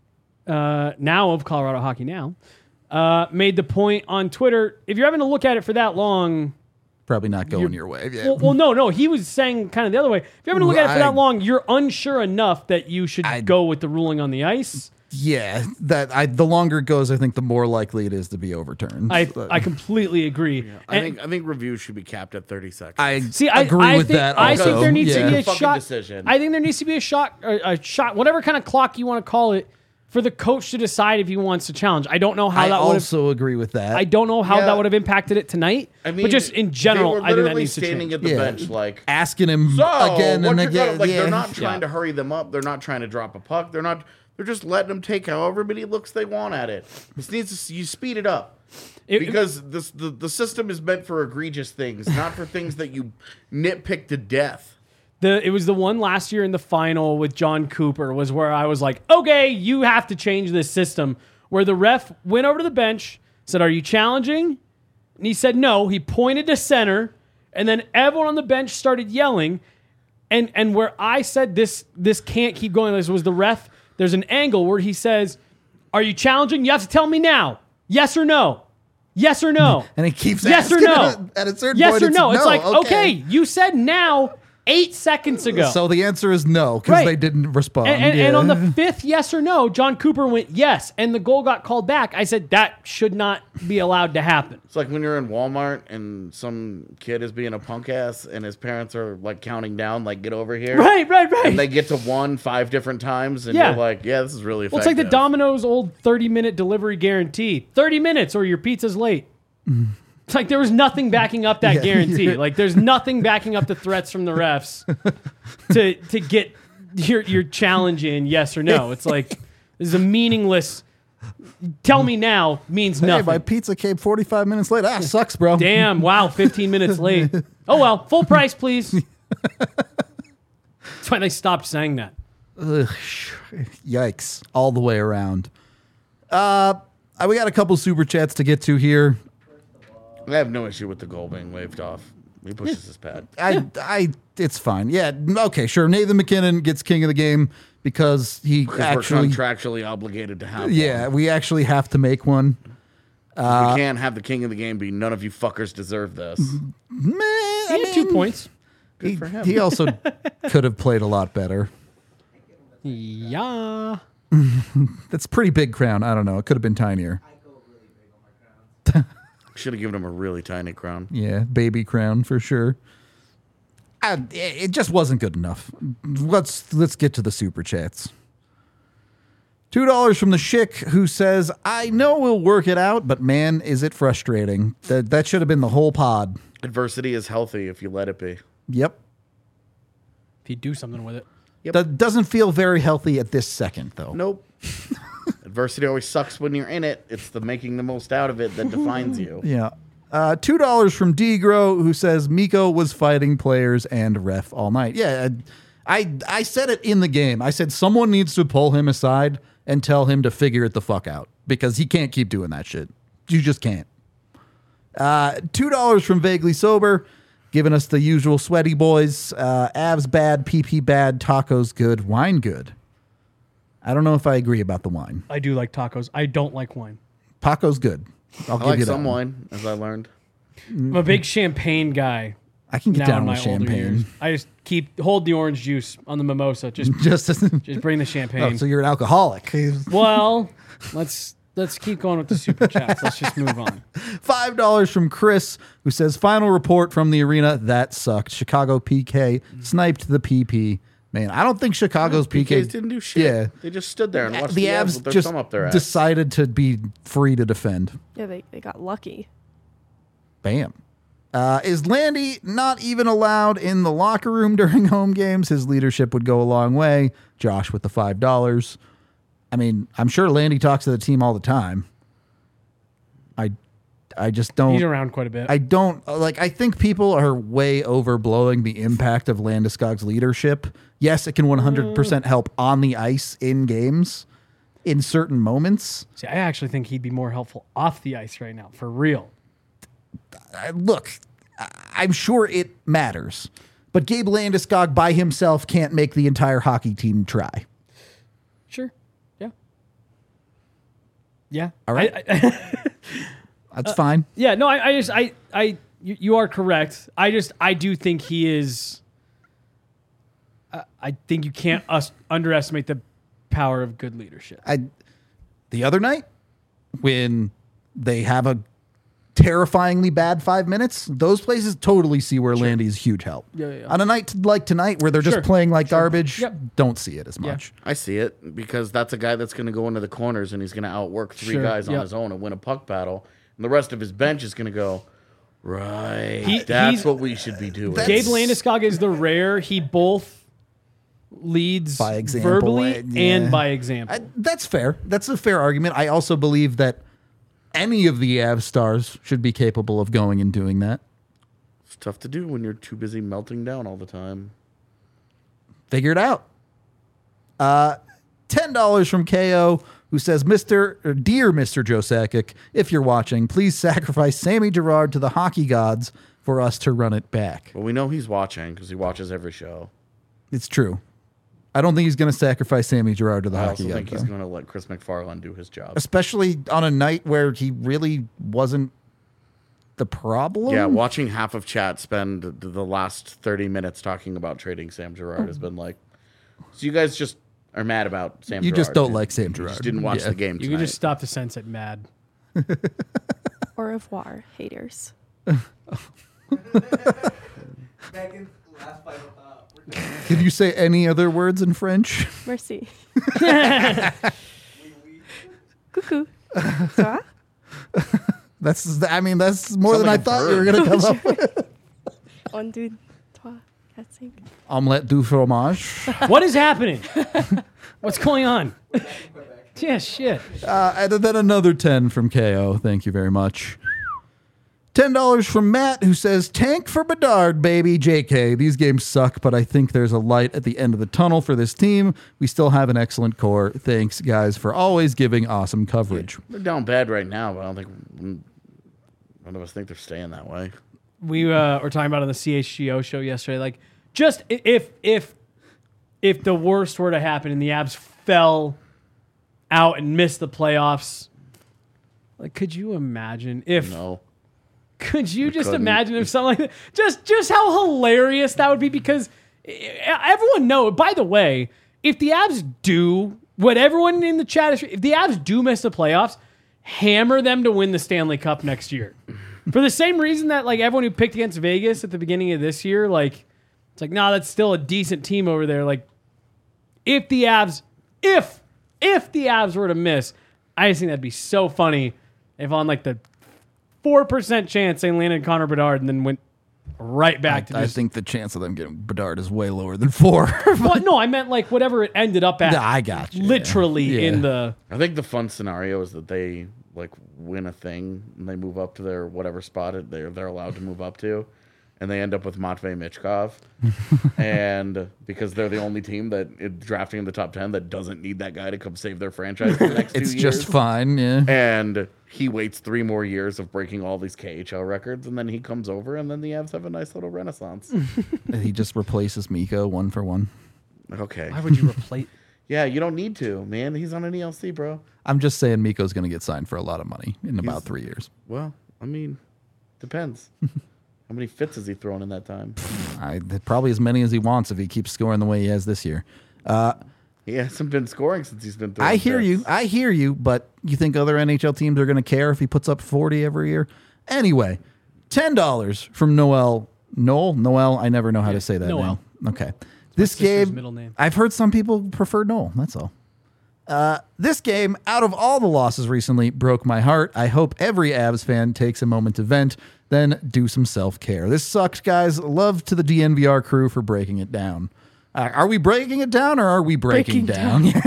uh, now of Colorado Hockey Now, uh, made the point on Twitter, if you're having to look at it for that long, Probably not going your way. Yeah. well, well, no, no. He was saying kind of the other way. If you're having to look at it for I- that long, you're unsure enough that you should I- go with the ruling on the ice. yeah, that I the longer it goes, I think the more likely it is to be overturned. I But I completely agree. I And- think I think reviews should be capped at thirty seconds. I see. I agree I with think, that. I Also. think there needs yeah. to be a Fucking shot. decision. I think there needs to be a shot, a, a shot, whatever kind of clock you want to call it, for the coach to decide if he wants to challenge. I don't know how I that would have. also agree with that. I don't know how Yeah. that would have impacted it tonight. I mean, but just in general, they were I think that literally needs to standing change. at the Yeah. bench like. asking him So, again what and you're again. gonna- like yeah. they're not trying Yeah. to hurry them up. They're not trying to drop a puck. They're not. They're just letting them take however many looks they want at it. This needs to you speed it up It- because this the the system is meant for egregious things, not for things that you nitpick to death. The it was the one last year in the final with John Cooper was where I was like, okay, you have to change this system. Where the ref went over to the bench, said, "Are you challenging?" And he said no. He pointed to center, and then everyone on the bench started yelling. And and where I said this this can't keep going, this was the ref. There's an angle where he says, "Are you challenging? You have to tell me now. Yes or no. Yes or no." And he keeps yes or asking no. At a certain yes point, or it's no. It's no, like, okay. okay, you said now eight seconds ago. So the answer is no because Right. they didn't respond. And, and, yeah. and on the fifth yes or no, John Cooper went yes, and the goal got called back. I said that should not be allowed to happen. It's like when you're in Walmart and some kid is being a punk ass and his parents are like counting down, like get over here. Right, right, right. And they get to one five different times, and Yeah. you're like, yeah, this is really effective. Well, it's like the Domino's old thirty-minute delivery guarantee. thirty minutes or your pizza's late. It's like there was nothing backing up that Yeah. guarantee. Like there's nothing backing up the threats from the refs to to get your your challenge in yes or no. It's like this is a meaningless tell me now means Hey, nothing. my pizza came forty-five minutes late. Ah, sucks, bro. Damn, wow, fifteen minutes late. Oh well, full price, please. That's why they stopped saying that. Ugh, yikes. All the way around. Uh, we got a couple super chats to get to here. I have no issue with the goal being waved off. He pushes his pad. I, I, it's fine. Yeah, okay, sure. Nathan McKinnon gets king of the game because he Because actually, we're contractually obligated to have yeah, one. we actually have to make one. we can't have the king of the game be none of you fuckers deserve this. Meh, I He had two mean, points. He, for him. he also could have played a lot better. Yeah. That's a pretty big crown. I don't know. It could have been tinier. Should have given him a really tiny crown. Yeah, baby crown for sure. I, it just wasn't good enough. Let's let's get to the super chats. Two dollars from the Schick who says, "I know we'll work it out, but man, is it frustrating." That that should have been the whole pod. Adversity is healthy if you let it be. Yep. If you do something with it. Yep. That doesn't feel very healthy at this second, though. Nope. Adversity always sucks when you're in it. It's the making the most out of it that defines you. Yeah. Uh, two dollars from Degro, who says Miko was fighting players and ref all night. Yeah, I I said it in the game. I said someone needs to pull him aside and tell him to figure it the fuck out because he can't keep doing that shit. You just can't. Uh, two dollars from Vaguely Sober, giving us the usual sweaty boys. Uh, Avs bad, P P bad, tacos good, wine good. I don't know if I agree about the wine. I do like tacos. I don't like wine. Tacos good. I'll I give like you that some one. wine, as I learned. I'm a big champagne guy. I can get Now down in my with older years. champagne. I just keep hold the orange juice on the mimosa. Just Just just bring the champagne. oh, so you're an alcoholic. Well, let's let's keep going with the super chats. Let's just move on. Five dollars from Chris, who says, final report from the arena, that sucked. Chicago P K sniped the P P. Man, I don't think Chicago's P K... P Ks didn't do shit. Yeah. They just stood there and watched The the, Avs Avs with their just thumb up their ass. decided to be free to defend. Yeah, they, they got lucky. Bam. Uh, is Landy not even allowed in the locker room during home games? His leadership would go a long way. Josh with the five dollars. I mean, I'm sure Landy talks to the team all the time. I, I just don't... He's around quite a bit. I don't like. I think people are way overblowing the impact of Landeskog's leadership. Yes, it can one hundred percent help on the ice in games, in certain moments. See, I actually think he'd be more helpful off the ice right now, for real. I, look, I- I'm sure it matters, but Gabe Landeskog by himself can't make the entire hockey team try. Sure. Yeah. Yeah. All right. I, I, That's fine. yeah. No, I, I just, I, I, you, you are correct. I just, I do think he is. I, I think you can't us underestimate the power of good leadership. I the other night when they have a terrifyingly bad five minutes, those places totally see where Landy's huge help. Yeah, yeah, yeah. On a night like tonight where they're just Sure, playing like garbage, Yep. don't see it as much. I see it because that's a guy that's going to go into the corners and he's going to outwork three Sure, guys on yep. his own and win a puck battle. And the rest of his bench is going to go, right, He- that's he's- what we should be doing. That's- Gabe Landeskog is the rare. He both leads By example, verbally uh, yeah. and by example. I, that's fair. That's a fair argument. I also believe that any of the Avs stars should be capable of going and doing that. It's tough to do when you're too busy melting down all the time. Figure it out. Uh, ten dollars from K O, who says, Mister or Dear Mister Joe Sakic, if you're watching, please sacrifice Sammy Gerard to the hockey gods for us to run it back. But we know he's watching because he watches every show. It's true. I don't think he's going to sacrifice Sammy Gerard to the I hockey also gods, think he's though. going to let Chris McFarland do his job. Especially on a night where he really wasn't the problem. Yeah, watching half of chat spend the the last thirty minutes talking about trading Sam Gerard has been like, so you guys just are mad about Sam You Gerard. just don't dude. like Sam You Gerard. just didn't watch Yeah. the game you tonight. can just stop the sense at mad. Au revoir, haters. Megan, last five, uh, we're done. Did you say any other words in French? Merci. We- we- Coucou. Ça va? That's, I mean, that's more Sound than like I a thought bird. you were going to come up with. Un, deux, trois, quatre, cinq. Omelette du fromage. What is happening? What's going on? we're back in Quebec. Yeah, shit. Uh, and then another ten from K O. Thank you very much. ten dollars from Matt, who says, tank for Bedard, baby. J K, these games suck, but I think there's a light at the end of the tunnel for this team. We still have an excellent core. Thanks, guys, for always giving awesome coverage. They're down bad right now, but I don't think none of us think they're staying that way. We uh, were talking about on the C H G O show yesterday. Like, just i- if if if the worst were to happen and the Avs fell out and missed the playoffs, like, could you imagine if? No. Could you just couldn't. imagine if something like that? Just just how hilarious that would be? Because eh, everyone know. By the way, if the Avs do what everyone in the chat is, if the Avs do miss the playoffs, hammer them to win the Stanley Cup next year. For the same reason that like everyone who picked against Vegas at the beginning of this year, like it's like, nah, that's still a decent team over there. Like if the Avs, if if the Avs were to miss, I just think that'd be so funny if on like the four percent chance they landed Connor Bedard and then went right back to I just. think the chance of them getting Bedard is way lower than four. Well, no, I meant like whatever it ended up at. Nah, I got you. Literally Yeah. in the. I think the fun scenario is that they like win a thing and they move up to their whatever spot it they're they're allowed to move up to, and they end up with Matvei Michkov, and because they're the only team that it, drafting in the top ten that doesn't need that guy to come save their franchise for the next It's two just years. fine. Yeah. And he waits three more years of breaking all these K H L records, and then he comes over, and then the Avs have a nice little renaissance. He just replaces Miko one for one. Okay. Why would you replace? Yeah, you don't need to, man. He's on an E L C, bro. I'm just saying Miko's going to get signed for a lot of money in about He's- three years. Well, I mean, depends. How many fits has he thrown in that time? I, probably as many as he wants if he keeps scoring the way he has this year. He hasn't been scoring since he's been throwing I hear fits. you. I hear you. But you think other N H L teams are going to care if he puts up forty every year? Anyway, ten dollars from Noel. Noel? Noel? I never know how to say that Noel. name. Okay. This sister's game, middle name. I've heard some people prefer Noel. That's all. Uh, this game, out of all the losses recently, broke my heart. I hope every Avs fan takes a moment to vent, then do some self-care. This sucked, guys. Love to the D N V R crew for breaking it down. Uh, are we breaking it down or are we breaking, Breaking down?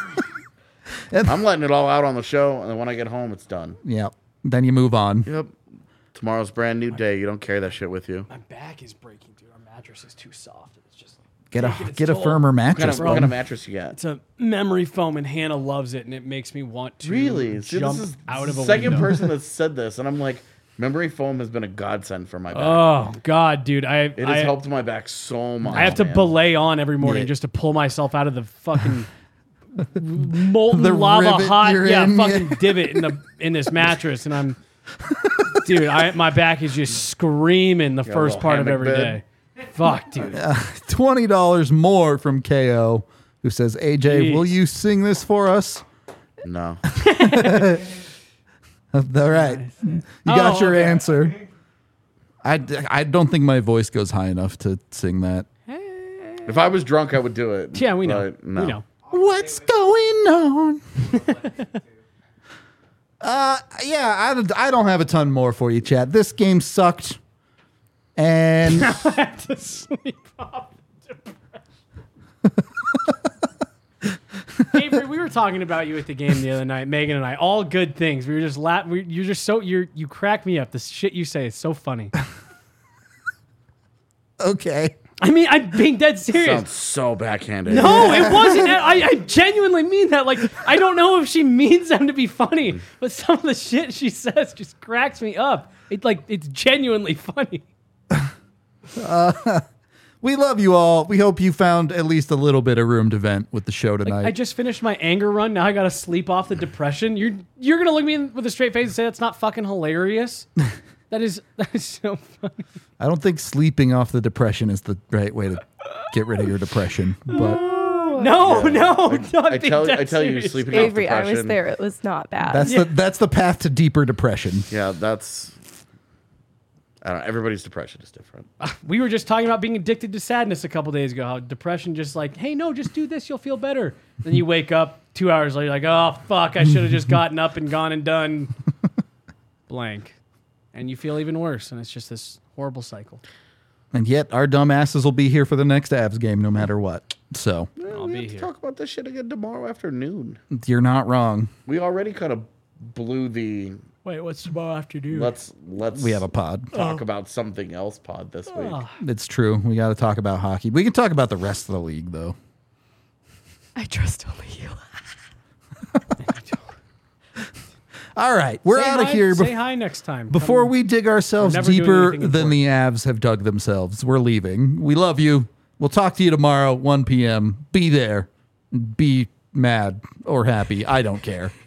I'm letting it all out on the show, and then when I get home, it's done. Yeah. Then you move on. Yep. Tomorrow's a brand new day. You don't carry that shit with you. My back is breaking, dude. Our mattress is too soft. It's just. Get a taking its get a toll. firmer What kind mattress. of, what kind bud. of mattress you got? It's a memory foam, and Hannah loves it, and it makes me want to Really? See, jump this is out of the a second window. person that's said this, and I'm like, memory foam has been a godsend for my back. Oh God, dude! I it has I, helped my back so much. I have to man. belay on every morning Yeah. just to pull myself out of the fucking molten The lava rivet hot you're yeah in, fucking yeah. divot in the in this mattress, and I'm dude, I my back is just screaming the a first little part of hammock every bed? day. Fuck, dude. Twenty dollars more from K O, who says, "A J, Jeez. will you sing this for us?" No. All right, you got Oh, your okay. answer. I, I don't think my voice goes high enough to sing that. If I was drunk, I would do it. Yeah, we know. but no. We know. What's going on? uh, yeah, I, don't- I don't have a ton more for you, Chad. This game sucked, and to sleep off Avery, we were talking about you at the game the other night, Megan and I. All good things. We were just la- we, You're just so you're you crack me up. The shit you say is so funny. okay. I mean, I'm being dead serious. Sounds so backhanded. No, it wasn't. I, I genuinely mean that. Like, I don't know if she means them to be funny, but some of the shit she says just cracks me up. It like it's genuinely funny. We love you all. We hope you found at least a little bit of room to vent with the show tonight. I just finished my anger run. Now I got to sleep off the depression. You're you're gonna look me in with a straight face and say that's not fucking hilarious. That is that is so funny. I don't think sleeping off the depression is the right way to get rid of your depression. But No, no, no. I tell I tell you, sleeping off Avery, I depression. was there. It was not bad. that's the that's the path to deeper depression. Yeah, that's. I don't know. Everybody's depression is different. We were just talking about being addicted to sadness a couple days ago. How depression just like, hey, no, just do this, you'll feel better. Then you wake up two hours later, like, oh fuck, I should have just gotten up and gone and done blank, and you feel even worse, and it's just this horrible cycle. And yet our dumbasses will be here for the next Avs game no matter what. So I'll we be have to here. talk about this shit again tomorrow afternoon. you're not wrong. We already kind of blew the Wait, what's tomorrow afternoon? let's let's We have a pod. talk about something else pod this week. Oh, It's true. We got to talk about hockey. We can talk about the rest of the league though. I trust only you. All right, we're say out of hi- here. Say Bef- hi next time. Before Come- we dig ourselves We're never doing deeper anything than the Avs have dug themselves, we're leaving. We love you. We'll talk to you tomorrow, one p.m. Be there. Be mad or happy. I don't care.